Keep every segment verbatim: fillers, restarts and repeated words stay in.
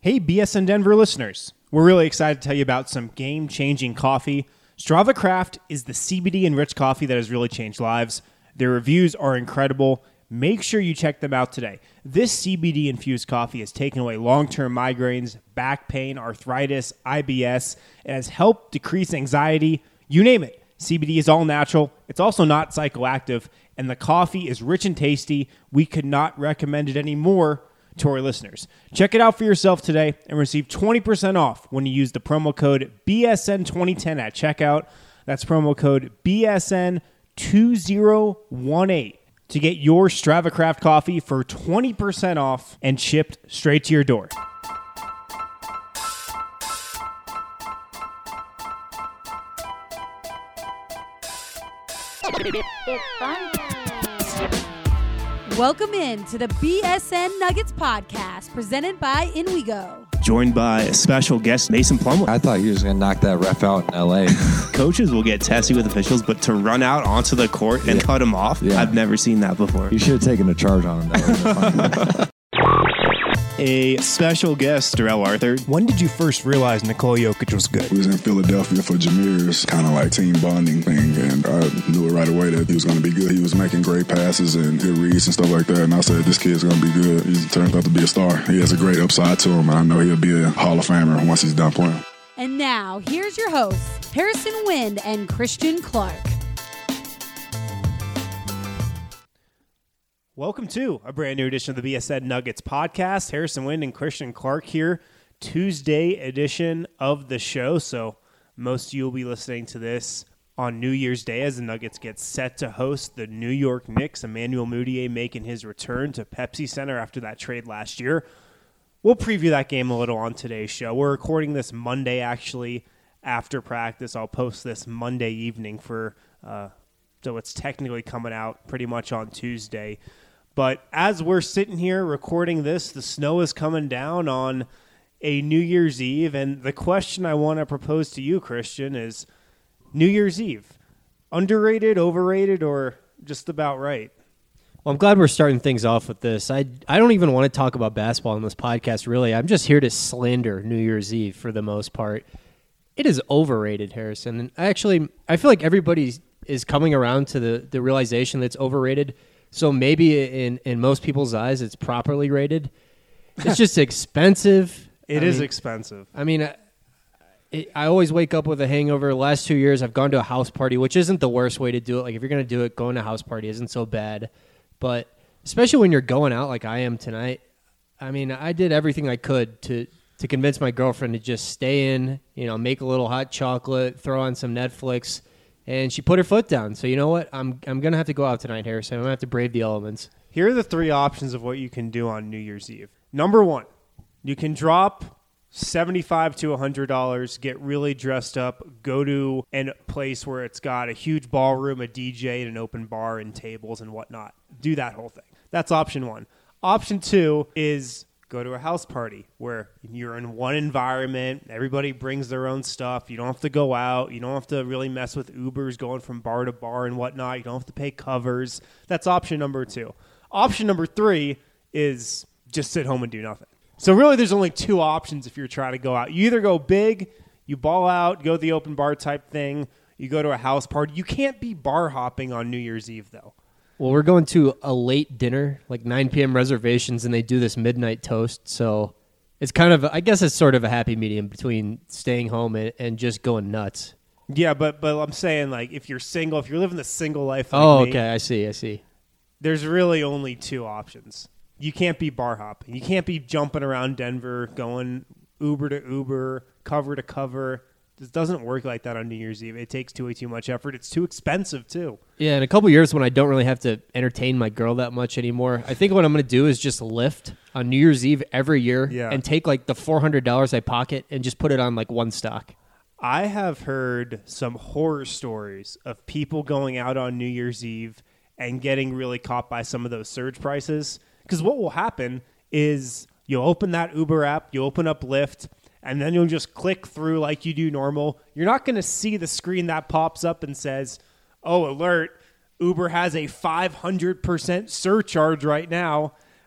Hey, B S N Denver listeners. We're really excited to tell you about some game-changing coffee. Strava Craft is the C B D-enriched coffee that has really changed lives. Their reviews are incredible. Make sure you check them out today. This C B D-infused coffee has taken away long-term migraines, back pain, arthritis, I B S. It has helped decrease anxiety. You name it. C B D is all natural. It's also not psychoactive. And the coffee is rich and tasty. We could not recommend it anymore to our listeners. Check it out for yourself today and receive twenty percent off when you use the promo code B S N twenty ten at checkout. That's promo code B S N two zero one eight to get your Strava Craft coffee for twenty percent off and shipped straight to your door. It's fun time. Welcome in to the B S N Nuggets podcast presented by InWeGo. Joined by a special guest, Mason Plumlee. I thought you were just going to knock that ref out in L A. Coaches will get testy with officials, but to run out onto the court and Yeah. cut him off, Yeah. I've never seen that before. You should have taken a charge on him. That would have been fun. A special guest, Darrell Arthur. When did you first realize Nikola Jokic was good? We was in Philadelphia for Jameer's kind of like team bonding thing, and I knew it right away that he was going to be good. He was making great passes and good reads and stuff like that, and I said, this kid's going to be good. He turned out to be a star. He has a great upside to him, and I know he'll be a Hall of Famer once he's done playing. And now, here's your hosts, Harrison Wind and Christian Clark. Welcome to a brand new edition of the B S N Nuggets podcast. Harrison Wind and Christian Clark here. Tuesday edition of the show. So most of you will be listening to this on New Year's Day as the Nuggets get set to host the New York Knicks. Emmanuel Mudiay making his return to Pepsi Center after that trade last year. We'll preview that game a little on today's show. We're recording this Monday, actually, after practice. I'll post this Monday evening for, uh, so it's technically coming out pretty much on Tuesday. But as we're sitting here recording this, the snow is coming down on a New Year's Eve. And the question I want to propose to you, Christian, is New Year's Eve. Underrated, overrated, or just about right? Well, I'm glad we're starting things off with this. I, I don't even want to talk about basketball on this podcast, really. I'm just here to slander New Year's Eve for the most part. It is overrated, Harrison. And actually, I feel like everybody is coming around to the, the realization that it's overrated. So maybe in, in most people's eyes, it's properly rated. It's just expensive. It I is mean, expensive. I mean, I, it, I always wake up with a hangover. The last two years, I've gone to a house party, which isn't the worst way to do it. Like, if you're going to do it, going to a house party isn't so bad. But especially when you're going out like I am tonight, I mean, I did everything I could to, to convince my girlfriend to just stay in, you know, make a little hot chocolate, throw on some Netflix. And she put her foot down. So you know what? I'm I'm going to have to go out tonight, Harrison. I'm going to have to brave the elements. Here are the three options of what you can do on New Year's Eve. Number one, you can drop seventy-five dollars to one hundred dollars, get really dressed up, go to a place where it's got a huge ballroom, a D J, and an open bar and tables and whatnot. Do that whole thing. That's option one. Option two is go to a house party where you're in one environment. Everybody brings their own stuff. You don't have to go out. You don't have to really mess with Ubers going from bar to bar and whatnot. You don't have to pay covers. That's option number two. Option number three is just sit home and do nothing. So really there's only two options if you're trying to go out. You either go big, you ball out, go the open bar type thing. You go to a house party. You can't be bar hopping on New Year's Eve, though. Well, we're going to a late dinner, like nine p.m. reservations, and they do this midnight toast. So it's kind of, I guess it's sort of a happy medium between staying home and, and just going nuts. Yeah, but but I'm saying, like, if you're single, if you're living the single life like Oh, me, okay. I see. I see. there's really only two options. You can't be bar hopping. You can't be jumping around Denver, going Uber to Uber, cover to cover. This doesn't work like that on New Year's Eve. It takes too way too much effort. It's too expensive, too. Yeah, in a couple years when I don't really have to entertain my girl that much anymore, I think what I'm going to do is just lift on New Year's Eve every year Yeah. and take like the four hundred dollars I pocket and just put it on like one stock. I have heard some horror stories of people going out on New Year's Eve and getting really caught by some of those surge prices. Because what will happen is you'll open that Uber app, you open up Lyft, and then you'll just click through like you do normal. You're not going to see the screen that pops up and says, oh, alert, Uber has a five hundred percent surcharge right now.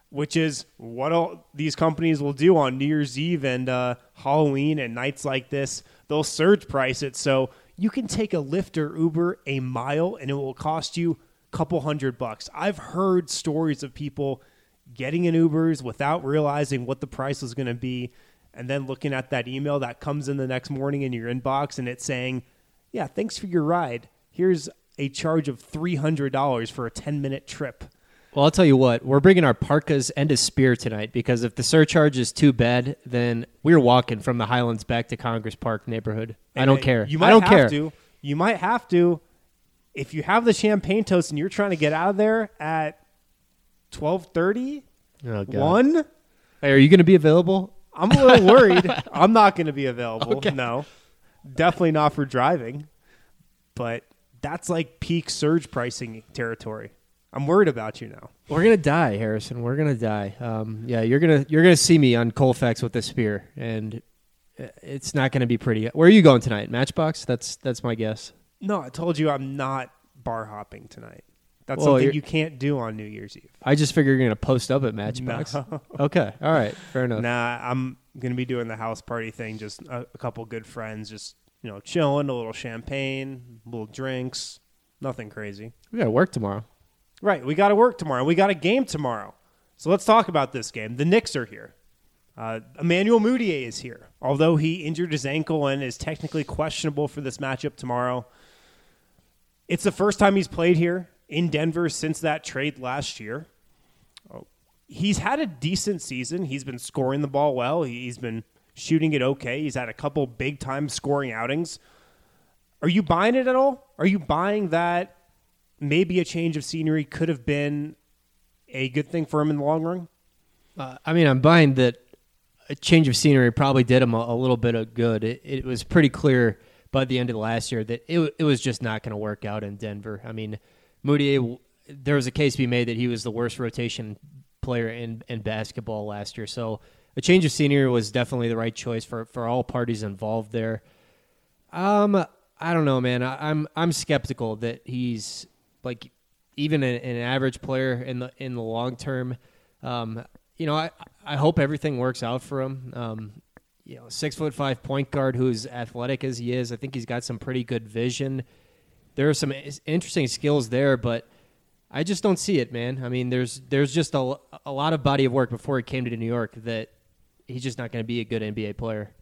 which is what all these companies will do on New Year's Eve and uh, Halloween and nights like this. They'll surge price it so you can take a Lyft or Uber a mile and it will cost you a couple hundred bucks. I've heard stories of people getting in Ubers without realizing what the price was going to be and then looking at that email that comes in the next morning in your inbox and it's saying, yeah, thanks for your ride. Here's a charge of three hundred dollars for a ten-minute trip. Well, I'll tell you what, we're bringing our parkas and a spear tonight because if the surcharge is too bad, then we're walking from the Highlands back to Congress Park neighborhood. I don't care. You might I don't have care. to. You might have to. If you have the champagne toast and you're trying to get out of there at twelve thirty, Oh, God. one, Hey, are you going to be available? I'm a little worried. I'm not going to be available. Okay. No, definitely not for driving. But that's like peak surge pricing territory. I'm worried about you now. We're gonna die, Harrison. We're gonna die. Um, yeah, you're gonna you're gonna see me on Colfax with the spear, and it's not gonna be pretty. Where are you going tonight? Matchbox? That's that's my guess. No, I told you I'm not bar hopping tonight. That's Well, something you're- you can't do on New Year's Eve. I just figure you're gonna post up at Matchbox. No. Okay, all right, fair enough. Nah, I'm going to be doing the house party thing, just a, a couple good friends, just, you know, chilling, a little champagne, little drinks, nothing crazy. We gotta work tomorrow. Right, we got to work tomorrow. We got a game tomorrow. So let's talk about this game. The Knicks are here. Uh, Emmanuel Mudiay is here, although he injured his ankle and is technically questionable for this matchup tomorrow. It's the first time he's played here in Denver since that trade last year. Oh, he's had a decent season. He's been scoring the ball well. He's been shooting it okay. He's had a couple big-time scoring outings. Are you buying it at all? Are you buying that maybe a change of scenery could have been a good thing for him in the long run? Uh, I mean, I'm buying that a change of scenery probably did him a, a little bit of good. It, it was pretty clear by the end of last year that it, it was just not going to work out in Denver. I mean, Mudiay, there was a case to be made that he was the worst rotation player in, in basketball last year. So a change of scenery was definitely the right choice for, for all parties involved there. Um, I don't know, man. I, I'm I'm skeptical that he's like even an, an average player in the in the long term. Um, you know, I I hope everything works out for him. Um, you know, six foot five point guard who's athletic as he is. I think he's got some pretty good vision. There are some interesting skills there, but I just don't see it, man. I mean, there's there's just a, a lot of body of work before he came to New York that he's just not going to be a good N B A player.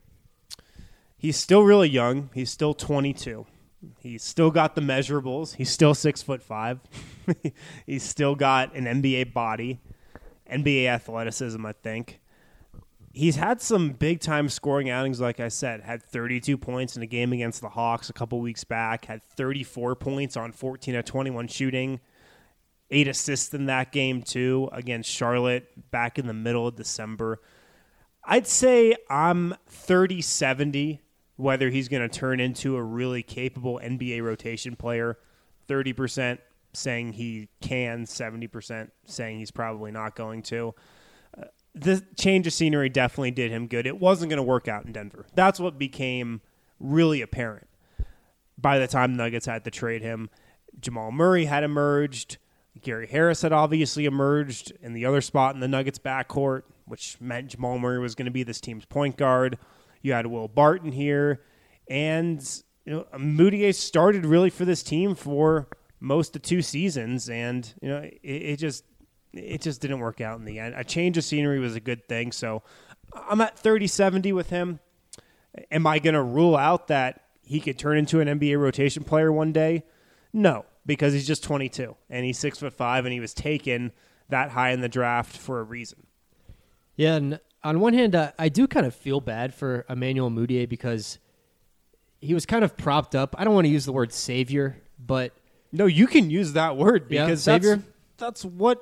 He's still really young. He's still twenty-two. He's still got the measurables. He's still six foot five. He's still got an N B A body, N B A athleticism, I think. He's had some big-time scoring outings, like I said. Had thirty-two points in a game against the Hawks a couple weeks back. Had thirty-four points on fourteen of twenty-one shooting. Eight assists in that game, too, against Charlotte back in the middle of December. I'd say I'm thirty seventy, whether he's going to turn into a really capable N B A rotation player. thirty percent saying he can, seventy percent saying he's probably not going to. Uh, the change of scenery definitely did him good. It wasn't going to work out in Denver. That's what became really apparent by the time the Nuggets had to trade him. Jamal Murray had emerged. Gary Harris had obviously emerged in the other spot in the Nuggets backcourt, which meant Jamal Murray was going to be this team's point guard. You had Will Barton here. And you know, Mudiay started really for this team for most of two seasons, and you know, it, it just it just didn't work out in the end. A change of scenery was a good thing, so I'm at thirty seventy with him. Am I going to rule out that he could turn into an N B A rotation player one day? No, because he's just twenty-two, and he's six foot five, and he was taken that high in the draft for a reason. Yeah, and on one hand, uh, I do kind of feel bad for Emmanuel Mudiay because he was kind of propped up. I don't want to use the word savior, but no, you can use that word because yeah, that's, savior. that's what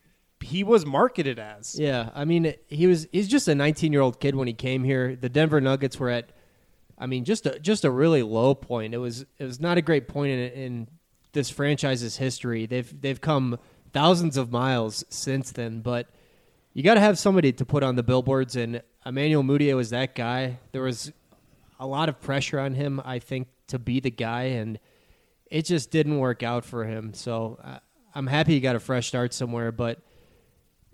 he was marketed as. Yeah, I mean, he was he's just a nineteen-year-old kid when he came here. The Denver Nuggets were at, I mean, just a just a really low point. It was it was not a great point in, in this franchise's history. They've they've come thousands of miles since then, but you got to have somebody to put on the billboards, and Emmanuel Mudiay was that guy. There was a lot of pressure on him, I think, to be the guy, and it just didn't work out for him. So uh, I'm happy he got a fresh start somewhere, but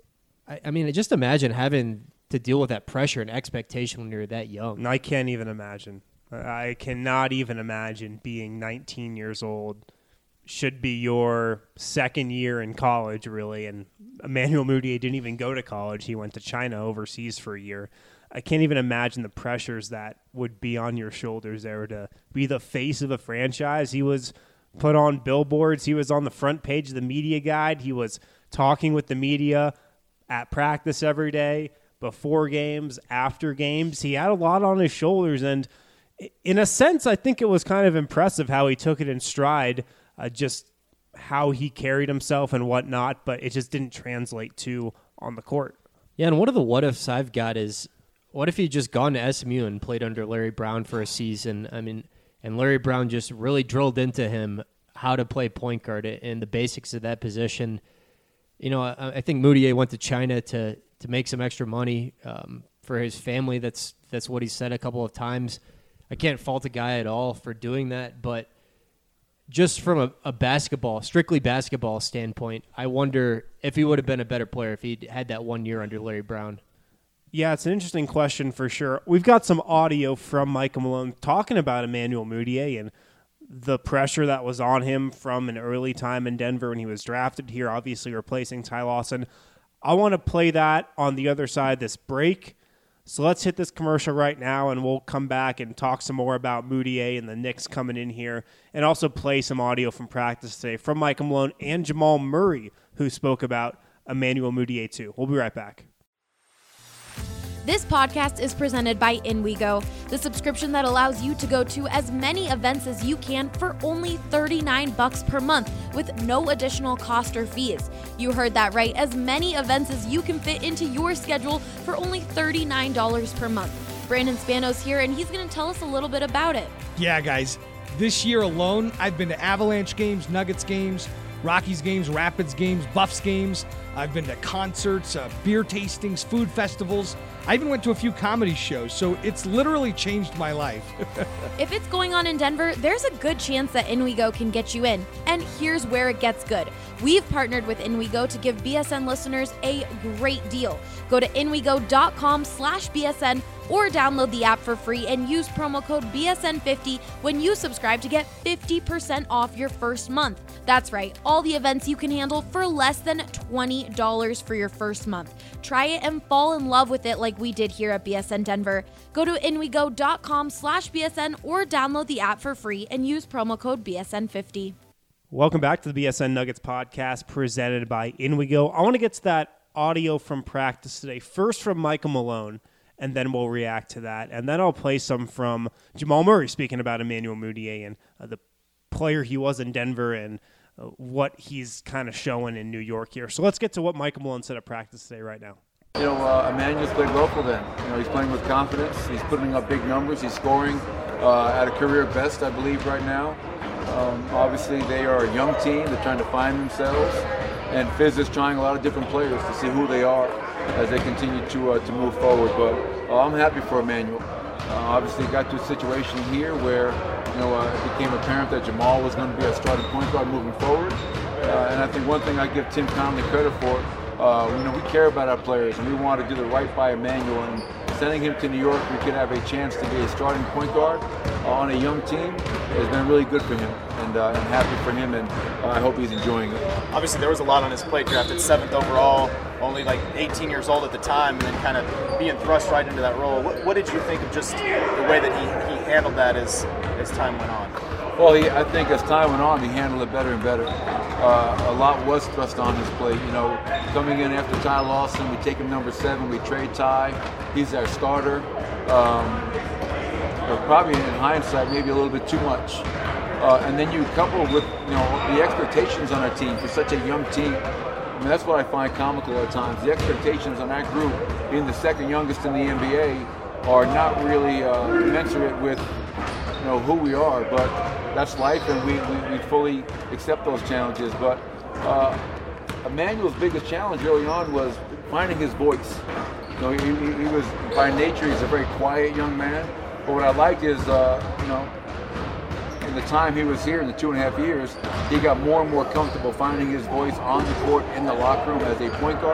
I, I mean, just imagine having to deal with that pressure and expectation when you're that young. And I can't even imagine. I cannot even imagine being nineteen years old. Should be your second year in college, really. And Emmanuel Mudiay didn't even go to college. He went to China overseas for a year. I can't even imagine the pressures that would be on your shoulders there to be the face of a franchise. He was put on billboards. He was on the front page of the media guide. He was talking with the media at practice every day, before games, after games. He had a lot on his shoulders. And in a sense, I think it was kind of impressive how he took it in stride. Uh, just how he carried himself and whatnot, but it just didn't translate to on the court. Yeah, and one of the what-ifs I've got is, what if he'd just gone to S M U and played under Larry Brown for a season? I mean, and Larry Brown just really drilled into him how to play point guard and the basics of that position. You know, I, I think Mudiay went to China to to make some extra money um, for his family. That's that's what he said a couple of times. I can't fault a guy at all for doing that, but just from a, a basketball, strictly basketball standpoint, I wonder if he would have been a better player if he'd had that one year under Larry Brown. Yeah, it's an interesting question for sure. We've got some audio from Michael Malone talking about Emmanuel Mudiay and the pressure that was on him from an early time in Denver when he was drafted here, obviously replacing Ty Lawson. I want to play that on the other side of this break. So let's hit this commercial right now, and we'll come back and talk some more about Mudiay and the Knicks coming in here, and also play some audio from practice today from Michael Malone and Jamal Murray, who spoke about Emmanuel Mudiay too. We'll be right back. This podcast is presented by InWeGo, the subscription that allows you to go to as many events as you can for only thirty-nine bucks per month with no additional cost or fees. You heard that right, as many events as you can fit into your schedule for only thirty-nine dollars per month. Brandon Spanos here, and he's going to tell us a little bit about it. Yeah, guys, this year alone, I've been to Avalanche games, Nuggets games, Rockies games, Rapids games, Buffs games. I've been to concerts, uh, beer tastings, food festivals. I even went to a few comedy shows, so it's literally changed my life. If it's going on in Denver, there's a good chance that InWeGo can get you in. And here's where it gets good. We've partnered with InWeGo to give B S N listeners a great deal. Go to InWeGo.com slash BSN or download the app for free and use promo code B S N fifty when you subscribe to get fifty percent off your first month. That's right, all the events you can handle for less than twenty dollars for your first month. Try it and fall in love with it like we did here at B S N Denver. Go to InWeGo.com slash BSN or download the app for free and use promo code B S N fifty. Welcome back to the B S N Nuggets podcast presented by InWeGo. I want to get to that audio from practice today, first from Michael Malone, and then we'll react to that. And then I'll play some from Jamal Murray speaking about Emmanuel Mudiay and uh, the player he was in Denver and uh, what he's kind of showing in New York here. So let's get to what Michael Malone said at practice today right now. You know, uh, Emmanuel's played well for them. You know, he's playing with confidence. He's putting up big numbers. He's scoring uh, at a career best, I believe, right now. Um, obviously, they are a young team. They're trying to find themselves. And Fizz is trying a lot of different players to see who they are as they continue to uh, to move forward. But uh, I'm happy for Emmanuel. Uh, obviously, got to a situation here where you know uh, it became apparent that Jamal was going to be a starting point guard moving forward. Uh, and I think one thing I give Tim Conley credit for, uh, you know, we care about our players and we want to do the right by Emmanuel. And sending him to New York, we could have a chance to be a starting point guard uh, on a young team has been really good for him. And uh, I'm happy for him, and uh, I hope he's enjoying it. Obviously, there was a lot on his plate. Drafted seventh overall, only like eighteen years old at the time, and then kind of being thrust right into that role. What, what did you think of just the way that he, he handled that as as time went on? Well, he, I think as time went on, he handled it better and better. Uh, a lot was thrust on his plate. You know, coming in after Ty Lawson, we take him number seven, we trade Ty. He's our starter. Um, probably in hindsight, maybe a little bit too much. Uh, and then you couple with, you know, the expectations on our team for such a young team. I mean, that's what I find comical at times. The expectations on that group, being the second youngest in the N B A, are not really uh, commensurate with, you know, who we are. But that's life, and we, we, we fully accept those challenges. But uh, Emmanuel's biggest challenge early on was finding his voice. You know, he, he, he was, by nature, he's a very quiet young man. But what I like is, uh, you know, in the time he was here, in the two and a half years, he got more and more comfortable finding his voice on the court, in the locker room as a point guard.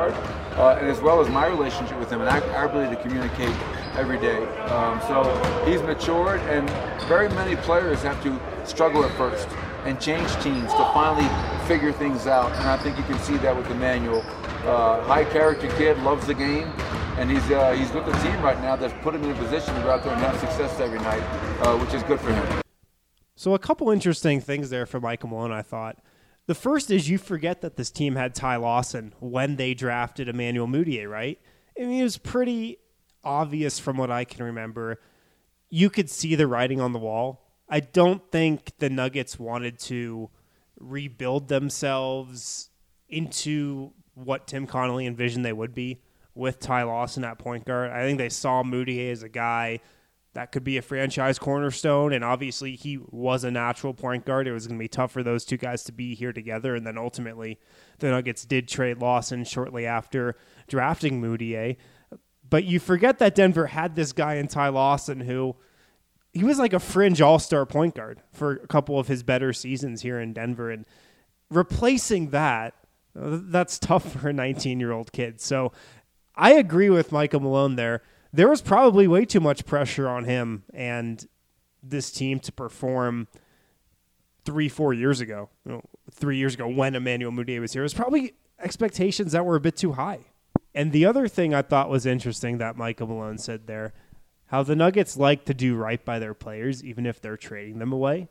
uh, and as well as my relationship with him and our, our ability to communicate every day. Um, so he's matured, and very many players have to struggle at first and change teams to finally figure things out, and I think you can see that with Emmanuel. Uh, high character kid, loves the game, and he's uh, he's with the team right now that's put him in a position to go out there and have success every night, uh, which is good for him. So a couple interesting things there for Michael Malone, I thought. The first is you forget that this team had Ty Lawson when they drafted Emmanuel Mudiay, right? I mean, it was pretty obvious from what I can remember. You could see the writing on the wall. I don't think the Nuggets wanted to rebuild themselves into what Tim Connolly envisioned they would be with Ty Lawson at point guard. I think they saw Mudiay as a guy that could be a franchise cornerstone, and obviously he was a natural point guard. It was going to be tough for those two guys to be here together, and then ultimately the Nuggets did trade Lawson shortly after drafting Mudiay. But you forget that Denver had this guy in Ty Lawson who he was like a fringe all-star point guard for a couple of his better seasons here in Denver, and replacing that, that's tough for a nineteen-year-old kid. So I agree with Michael Malone there. There was probably way too much pressure on him and this team to perform three, four years ago, you know, three years ago when Emmanuel Mudiay was here. It was probably expectations that were a bit too high. And the other thing I thought was interesting that Michael Malone said there, how the Nuggets like to do right by their players, even if they're trading them away.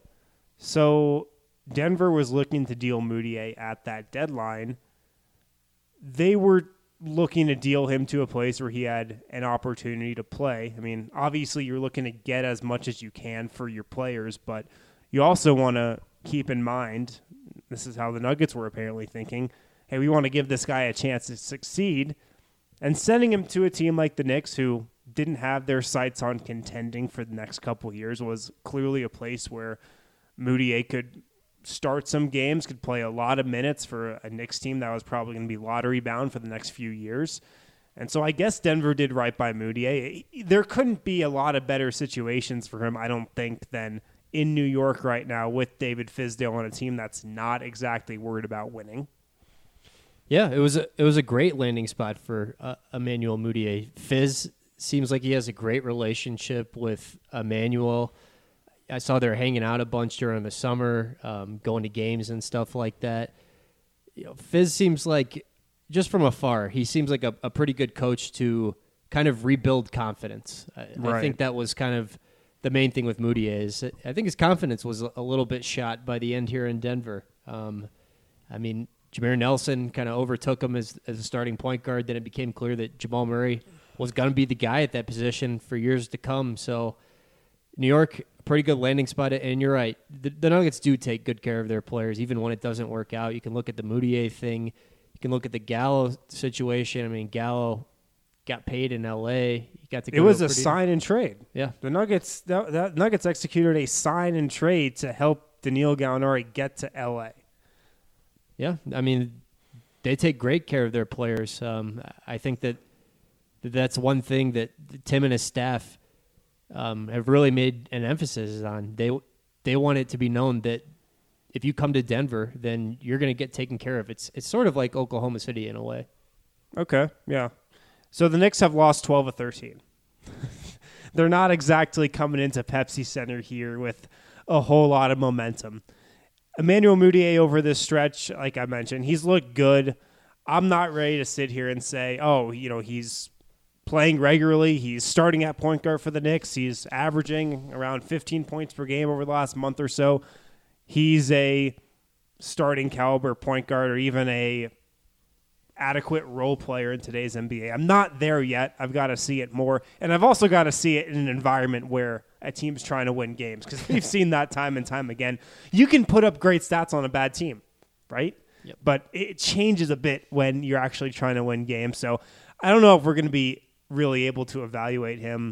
So Denver was looking to deal Mudiay at that deadline. They were looking to deal him to a place where he had an opportunity to play. I mean, obviously you're looking to get as much as you can for your players, but you also want to keep in mind, this is how the Nuggets were apparently thinking, hey, we want to give this guy a chance to succeed. And sending him to a team like the Knicks, who didn't have their sights on contending for the next couple of years, was clearly a place where Mudiay could start some games, could play a lot of minutes for a Knicks team that was probably going to be lottery bound for the next few years. And so I guess Denver did right by Mudiay. There couldn't be a lot of better situations for him, I don't think, than in New York right now with David Fizdale on a team that's not exactly worried about winning. Yeah, it was a, it was a great landing spot for uh, Emmanuel Mudiay. Fizz seems like he has a great relationship with Emmanuel. I saw they're hanging out a bunch during the summer, um, going to games and stuff like that. You know, Fizz seems like, just from afar, he seems like a, a pretty good coach to kind of rebuild confidence. I, right. I think that was kind of the main thing with Mudiay. Is I think his confidence was a little bit shot by the end here in Denver. Um, I mean, Jameer Nelson kind of overtook him as, as a starting point guard. Then it became clear that Jamal Murray was going to be the guy at that position for years to come. So New York, a pretty good landing spot. And you're right, the, the Nuggets do take good care of their players, even when it doesn't work out. You can look at the Mudiay thing. You can look at the Gallo situation. I mean, Gallo got paid in L A. He got to go it was to a, a pretty, sign and trade. Yeah. The Nuggets, the, the Nuggets executed a sign and trade to help Danilo Gallinari get to L A. Yeah, I mean, they take great care of their players. Um, I think that that's one thing that Tim and his staff um, have really made an emphasis on. They they want it to be known that if you come to Denver, then you're going to get taken care of. It's it's sort of like Oklahoma City in a way. Okay, yeah. So the Knicks have lost twelve of thirteen. They're not exactly coming into Pepsi Center here with a whole lot of momentum. Emmanuel Mudiay over this stretch, like I mentioned, he's looked good. I'm not ready to sit here and say, oh, you know, he's playing regularly. He's starting at point guard for the Knicks. He's averaging around fifteen points per game over the last month or so. He's a starting caliber point guard or even a adequate role player in today's N B A. I'm not there yet. I've got to see it more. And I've also got to see it in an environment where a team's trying to win games, because we've seen that time and time again. You can put up great stats on a bad team, right? Yep. But it changes a bit when you're actually trying to win games. So I don't know if we're going to be really able to evaluate him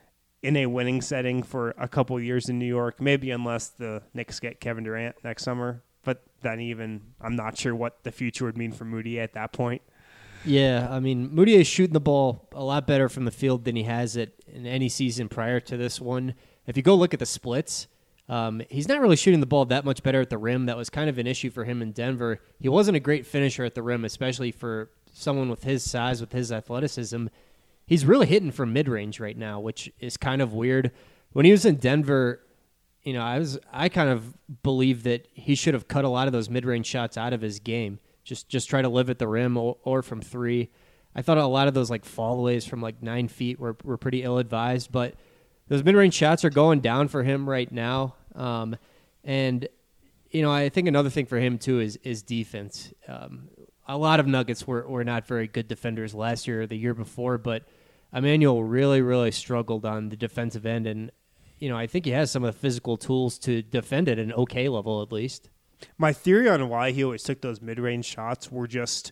in a winning setting for a couple years in New York, maybe unless the Knicks get Kevin Durant next summer. But then even, I'm not sure what the future would mean for Mudiay at that point. Yeah, I mean, Mudiay is shooting the ball a lot better from the field than he has it in any season prior to this one. If you go look at the splits, um, he's not really shooting the ball that much better at the rim. That was kind of an issue for him in Denver. He wasn't a great finisher at the rim, especially for someone with his size, with his athleticism, he's really hitting from mid-range right now, which is kind of weird. When he was in Denver, you know, I was I kind of believe that he should have cut a lot of those mid-range shots out of his game. Just just try to live at the rim or, or from three. I thought a lot of those like fallaways from like nine feet were were pretty ill-advised, but those mid-range shots are going down for him right now. Um, and you know, I think another thing for him too is is defense. Um, a lot of Nuggets were were not very good defenders last year or the year before, but Emmanuel really really struggled on the defensive end, and you know, I think he has some of the physical tools to defend at an okay level at least. My theory on why he always took those mid-range shots were just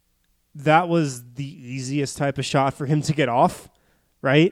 that was the easiest type of shot for him to get off, right?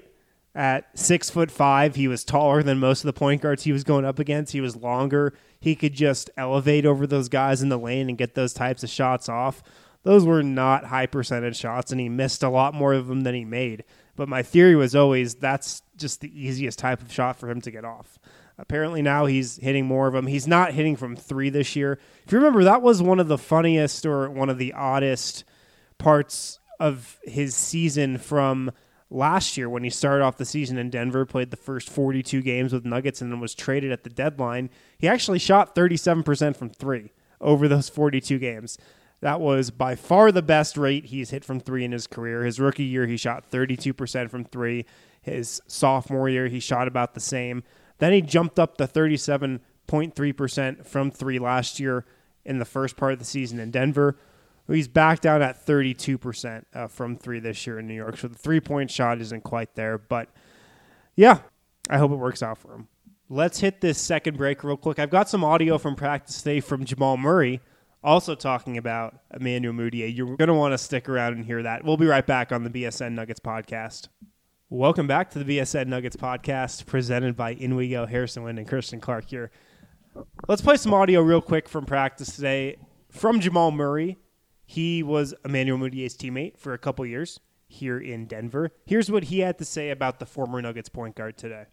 At six foot five, he was taller than most of the point guards he was going up against. He was longer. He could just elevate over those guys in the lane and get those types of shots off. Those were not high percentage shots, and he missed a lot more of them than he made. But my theory was always that's just the easiest type of shot for him to get off. Apparently now he's hitting more of them. He's not hitting from three this year. If you remember, that was one of the funniest or one of the oddest parts of his season from last year when he started off the season in Denver, played the first forty-two games with Nuggets, and then was traded at the deadline. He actually shot thirty-seven percent from three over those forty-two games. That was by far the best rate he's hit from three in his career. His rookie year, he shot thirty-two percent from three. His sophomore year, he shot about the same. Then he jumped up to thirty-seven point three percent from three last year in the first part of the season in Denver. He's back down at thirty-two percent uh, from three this year in New York. So the three-point shot isn't quite there. But, yeah, I hope it works out for him. Let's hit this second break real quick. I've got some audio from practice today from Jamal Murray, also talking about Emmanuel Mudiay. You're going to want to stick around and hear that. We'll be right back on the B S N Nuggets podcast. Welcome back to the B S N Nuggets podcast, presented by Inwigo, Harrison Wind, and Christian Clark here. Let's play some audio real quick from practice today from Jamal Murray. He was Emmanuel Mudiay's teammate for a couple years here in Denver. Here's what he had to say about the former Nuggets point guard today.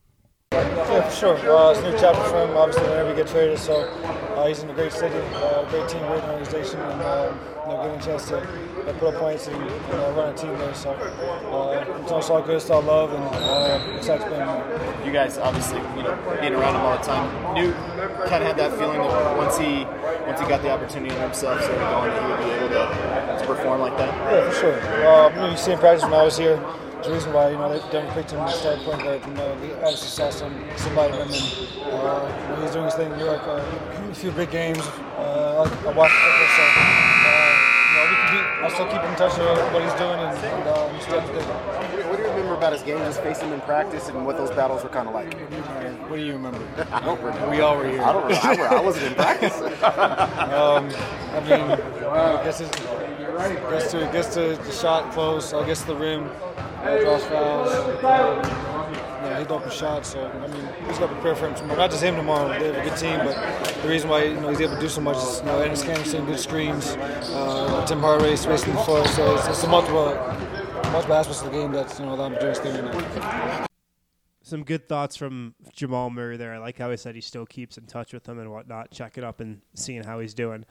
Yeah, for sure. Uh, it's a new chapter for him, obviously, whenever he gets traded. So uh, he's in a great city, uh, great team, great organization, and um, you know, getting a chance to uh, put up points and, and uh, run a team there. So uh, it's, all, it's all good, it's all love, and uh, excited to play him. You guys, obviously, you know, being around him all the time, knew, kind of had that feeling that once he once he got the opportunity in himself, started going, that he would be able to, to perform like that. Yeah, for sure. Uh, you know, you see in practice when I was here. The reason why, you know, they Denver picked him to start point guard, you know, they obviously saw some, somebody in him, and, uh, you know, he's doing his thing in New York, uh, a few big games, uh, I watched it, so, uh, you know, we can be, I'll still keep in touch with what he's doing, and, and uh, he's still good. What do you remember about his game, just facing him in practice, and what those battles were kind of like? What do you remember? I don't remember. We all were here. I don't remember. I wasn't in practice. um, I mean, I guess it gets to, gets to the shot close, I guess the rim. Uh, draws fouls, um, you know, hit open shots. So I mean, he's got to prepare for him tomorrow. Not just him tomorrow. They have a good team, but the reason why, you know, he's able to do so much is, you know, Ennis Cannon good screens, uh, Tim Hardaway spacing the floor. So it's, it's a multiple, multiple aspects of the game that's, you know, allowed him to do his thing right now. Some good thoughts from Jamal Murray there. I like how he said he still keeps in touch with him and whatnot, checking up and seeing how he's doing.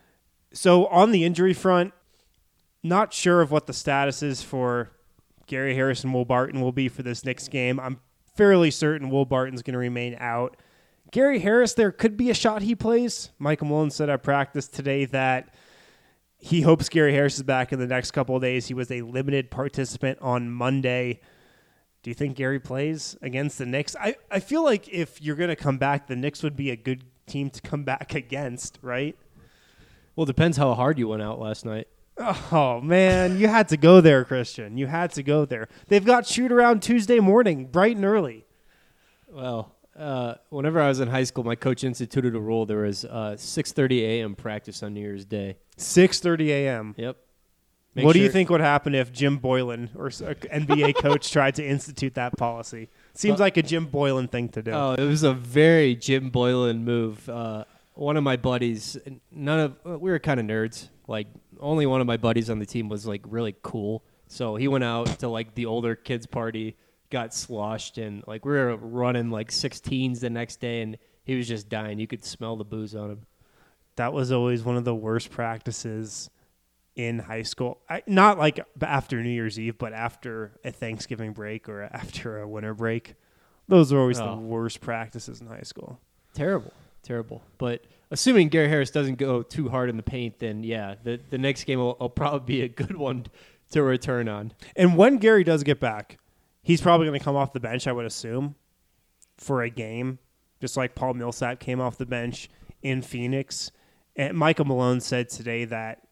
So on the injury front, not sure of what the status is for Gary Harris and Will Barton will be for this next game. I'm fairly certain Will Barton's going to remain out. Gary Harris, there could be a shot he plays. Michael Malone said at practice today that he hopes Gary Harris is back in the next couple of days. He was a limited participant on Monday. Do you think Gary plays against the Knicks? I, I feel like if you're going to come back, the Knicks would be a good team to come back against, right? Well, it depends how hard you went out last night. Oh, man, you had to go there, Christian. You had to go there. They've got shoot-around Tuesday morning, bright and early. Well, uh, whenever I was in high school, my coach instituted a rule. There was uh, six thirty a.m. practice on New Year's Day. six thirty a.m.? Yep. Make what sure. do you think would happen if Jim Boylan or an N B A coach tried to institute that policy? Seems uh, like a Jim Boylan thing to do. Oh, it was a very Jim Boylan move. Uh, one of my buddies, none of we were kind of nerds, like, only one of my buddies on the team was like really cool. So he went out to like the older kids party, got sloshed, and like we were running like sixteens the next day, and he was just dying. You could smell the booze on him. That was always one of the worst practices in high school. I, not like after New Year's Eve, but after a Thanksgiving break or after a winter break. Those are always Oh. the worst practices in high school. Terrible, terrible. But assuming Gary Harris doesn't go too hard in the paint, then yeah, the, the next game will, will probably be a good one to return on. And when Gary does get back, he's probably going to come off the bench, I would assume, for a game, just like Paul Millsap came off the bench in Phoenix. And Michael Malone said today that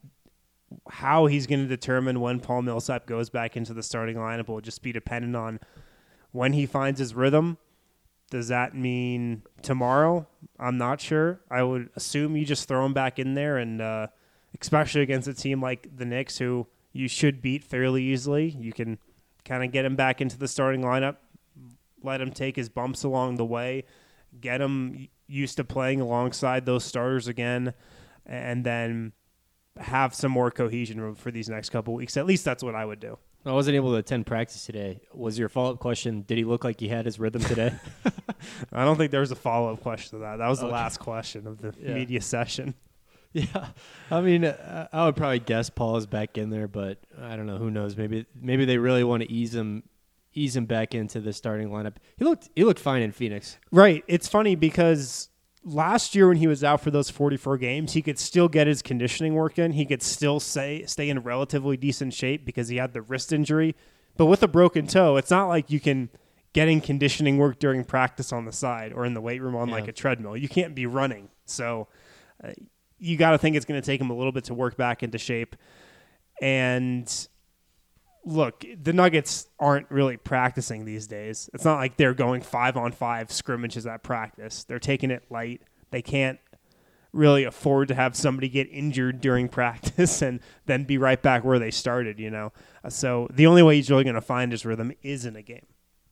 how he's going to determine when Paul Millsap goes back into the starting lineup will just be dependent on when he finds his rhythm. Does that mean tomorrow? I'm not sure. I would assume you just throw him back in there, and uh, especially against a team like the Knicks, who you should beat fairly easily. You can kind of get him back into the starting lineup, let him take his bumps along the way, get him used to playing alongside those starters again, and then have some more cohesion for these next couple weeks. At least that's what I would do. I wasn't able to attend practice today. Was your follow-up question, did he look like he had his rhythm today? I don't think there was a follow-up question to that. That was the Okay. last question of the Yeah. media session. Yeah. I mean, uh, I would probably guess Paul is back in there, but I don't know. Who knows? Maybe maybe they really want to ease him ease him back into the starting lineup. He looked he looked fine in Phoenix. Right. It's funny because last year when he was out for those forty-four games, he could still get his conditioning work in. He could still say, stay in relatively decent shape because he had the wrist injury. But with a broken toe, it's not like you can get in conditioning work during practice on the side or in the weight room on Yeah. like a treadmill. You can't be running. So uh, you got to think it's going to take him a little bit to work back into shape. And look, the Nuggets aren't really practicing these days. It's not like they're going five on five scrimmages at practice. They're taking it light. They can't really afford to have somebody get injured during practice and then be right back where they started, you know? So the only way he's really going to find his rhythm is in a game.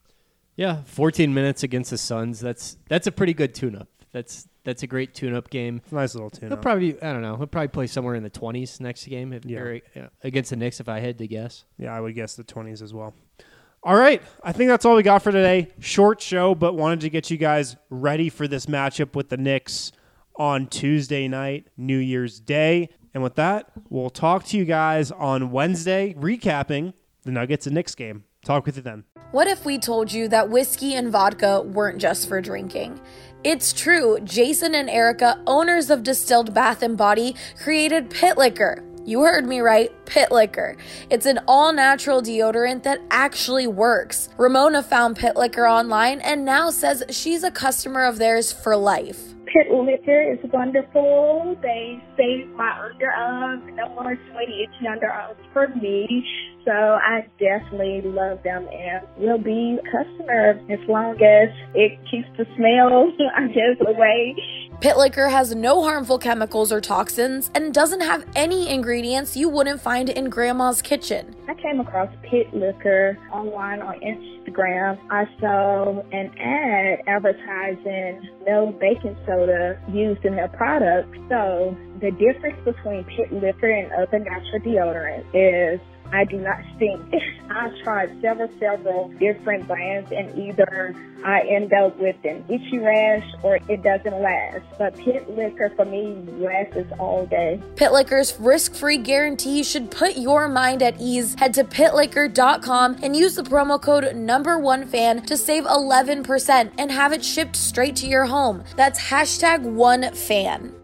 Yeah, fourteen minutes against the Suns. That's that's a pretty good tune-up. That's that's a great tune-up game. It's a nice little He'll tune-up. probably, I don't know, he'll probably play somewhere in the twenties next game if, Yeah. or, uh, against the Knicks if I had to guess. Yeah, I would guess the twenties as well. All right. I think that's all we got for today. Short show, but wanted to get you guys ready for this matchup with the Knicks on Tuesday night, New Year's Day. And with that, we'll talk to you guys on Wednesday, recapping the Nuggets and Knicks game. Talk with you then. What if we told you that whiskey and vodka weren't just for drinking? It's true. Jason and Erica, owners of Distilled Bath and Body, created Pit Liquor. You heard me right, Pit Liquor. It's an all-natural deodorant that actually works. Ramona found Pit Liquor online and now says she's a customer of theirs for life. Pit Liquor is wonderful. They save my underarms. No more sweaty, itchy underarms for me. So I definitely love them and will be a customer as long as it keeps the smell, I guess, away. Pit Liquor has no harmful chemicals or toxins and doesn't have any ingredients you wouldn't find in Grandma's kitchen. I came across Pit Liquor online on Instagram. I saw an ad advertising no baking soda used in their product. So the difference between Pit Liquor and other natural deodorants is I do not stink. I've tried several, several different brands, and either I end up with an itchy rash or it doesn't last. But Pit Liquor, for me, lasts all day. Pit Liquor's risk-free guarantee should put your mind at ease. Head to pit liquor dot com and use the promo code number one fan to save eleven percent and have it shipped straight to your home. That's hashtag one fan.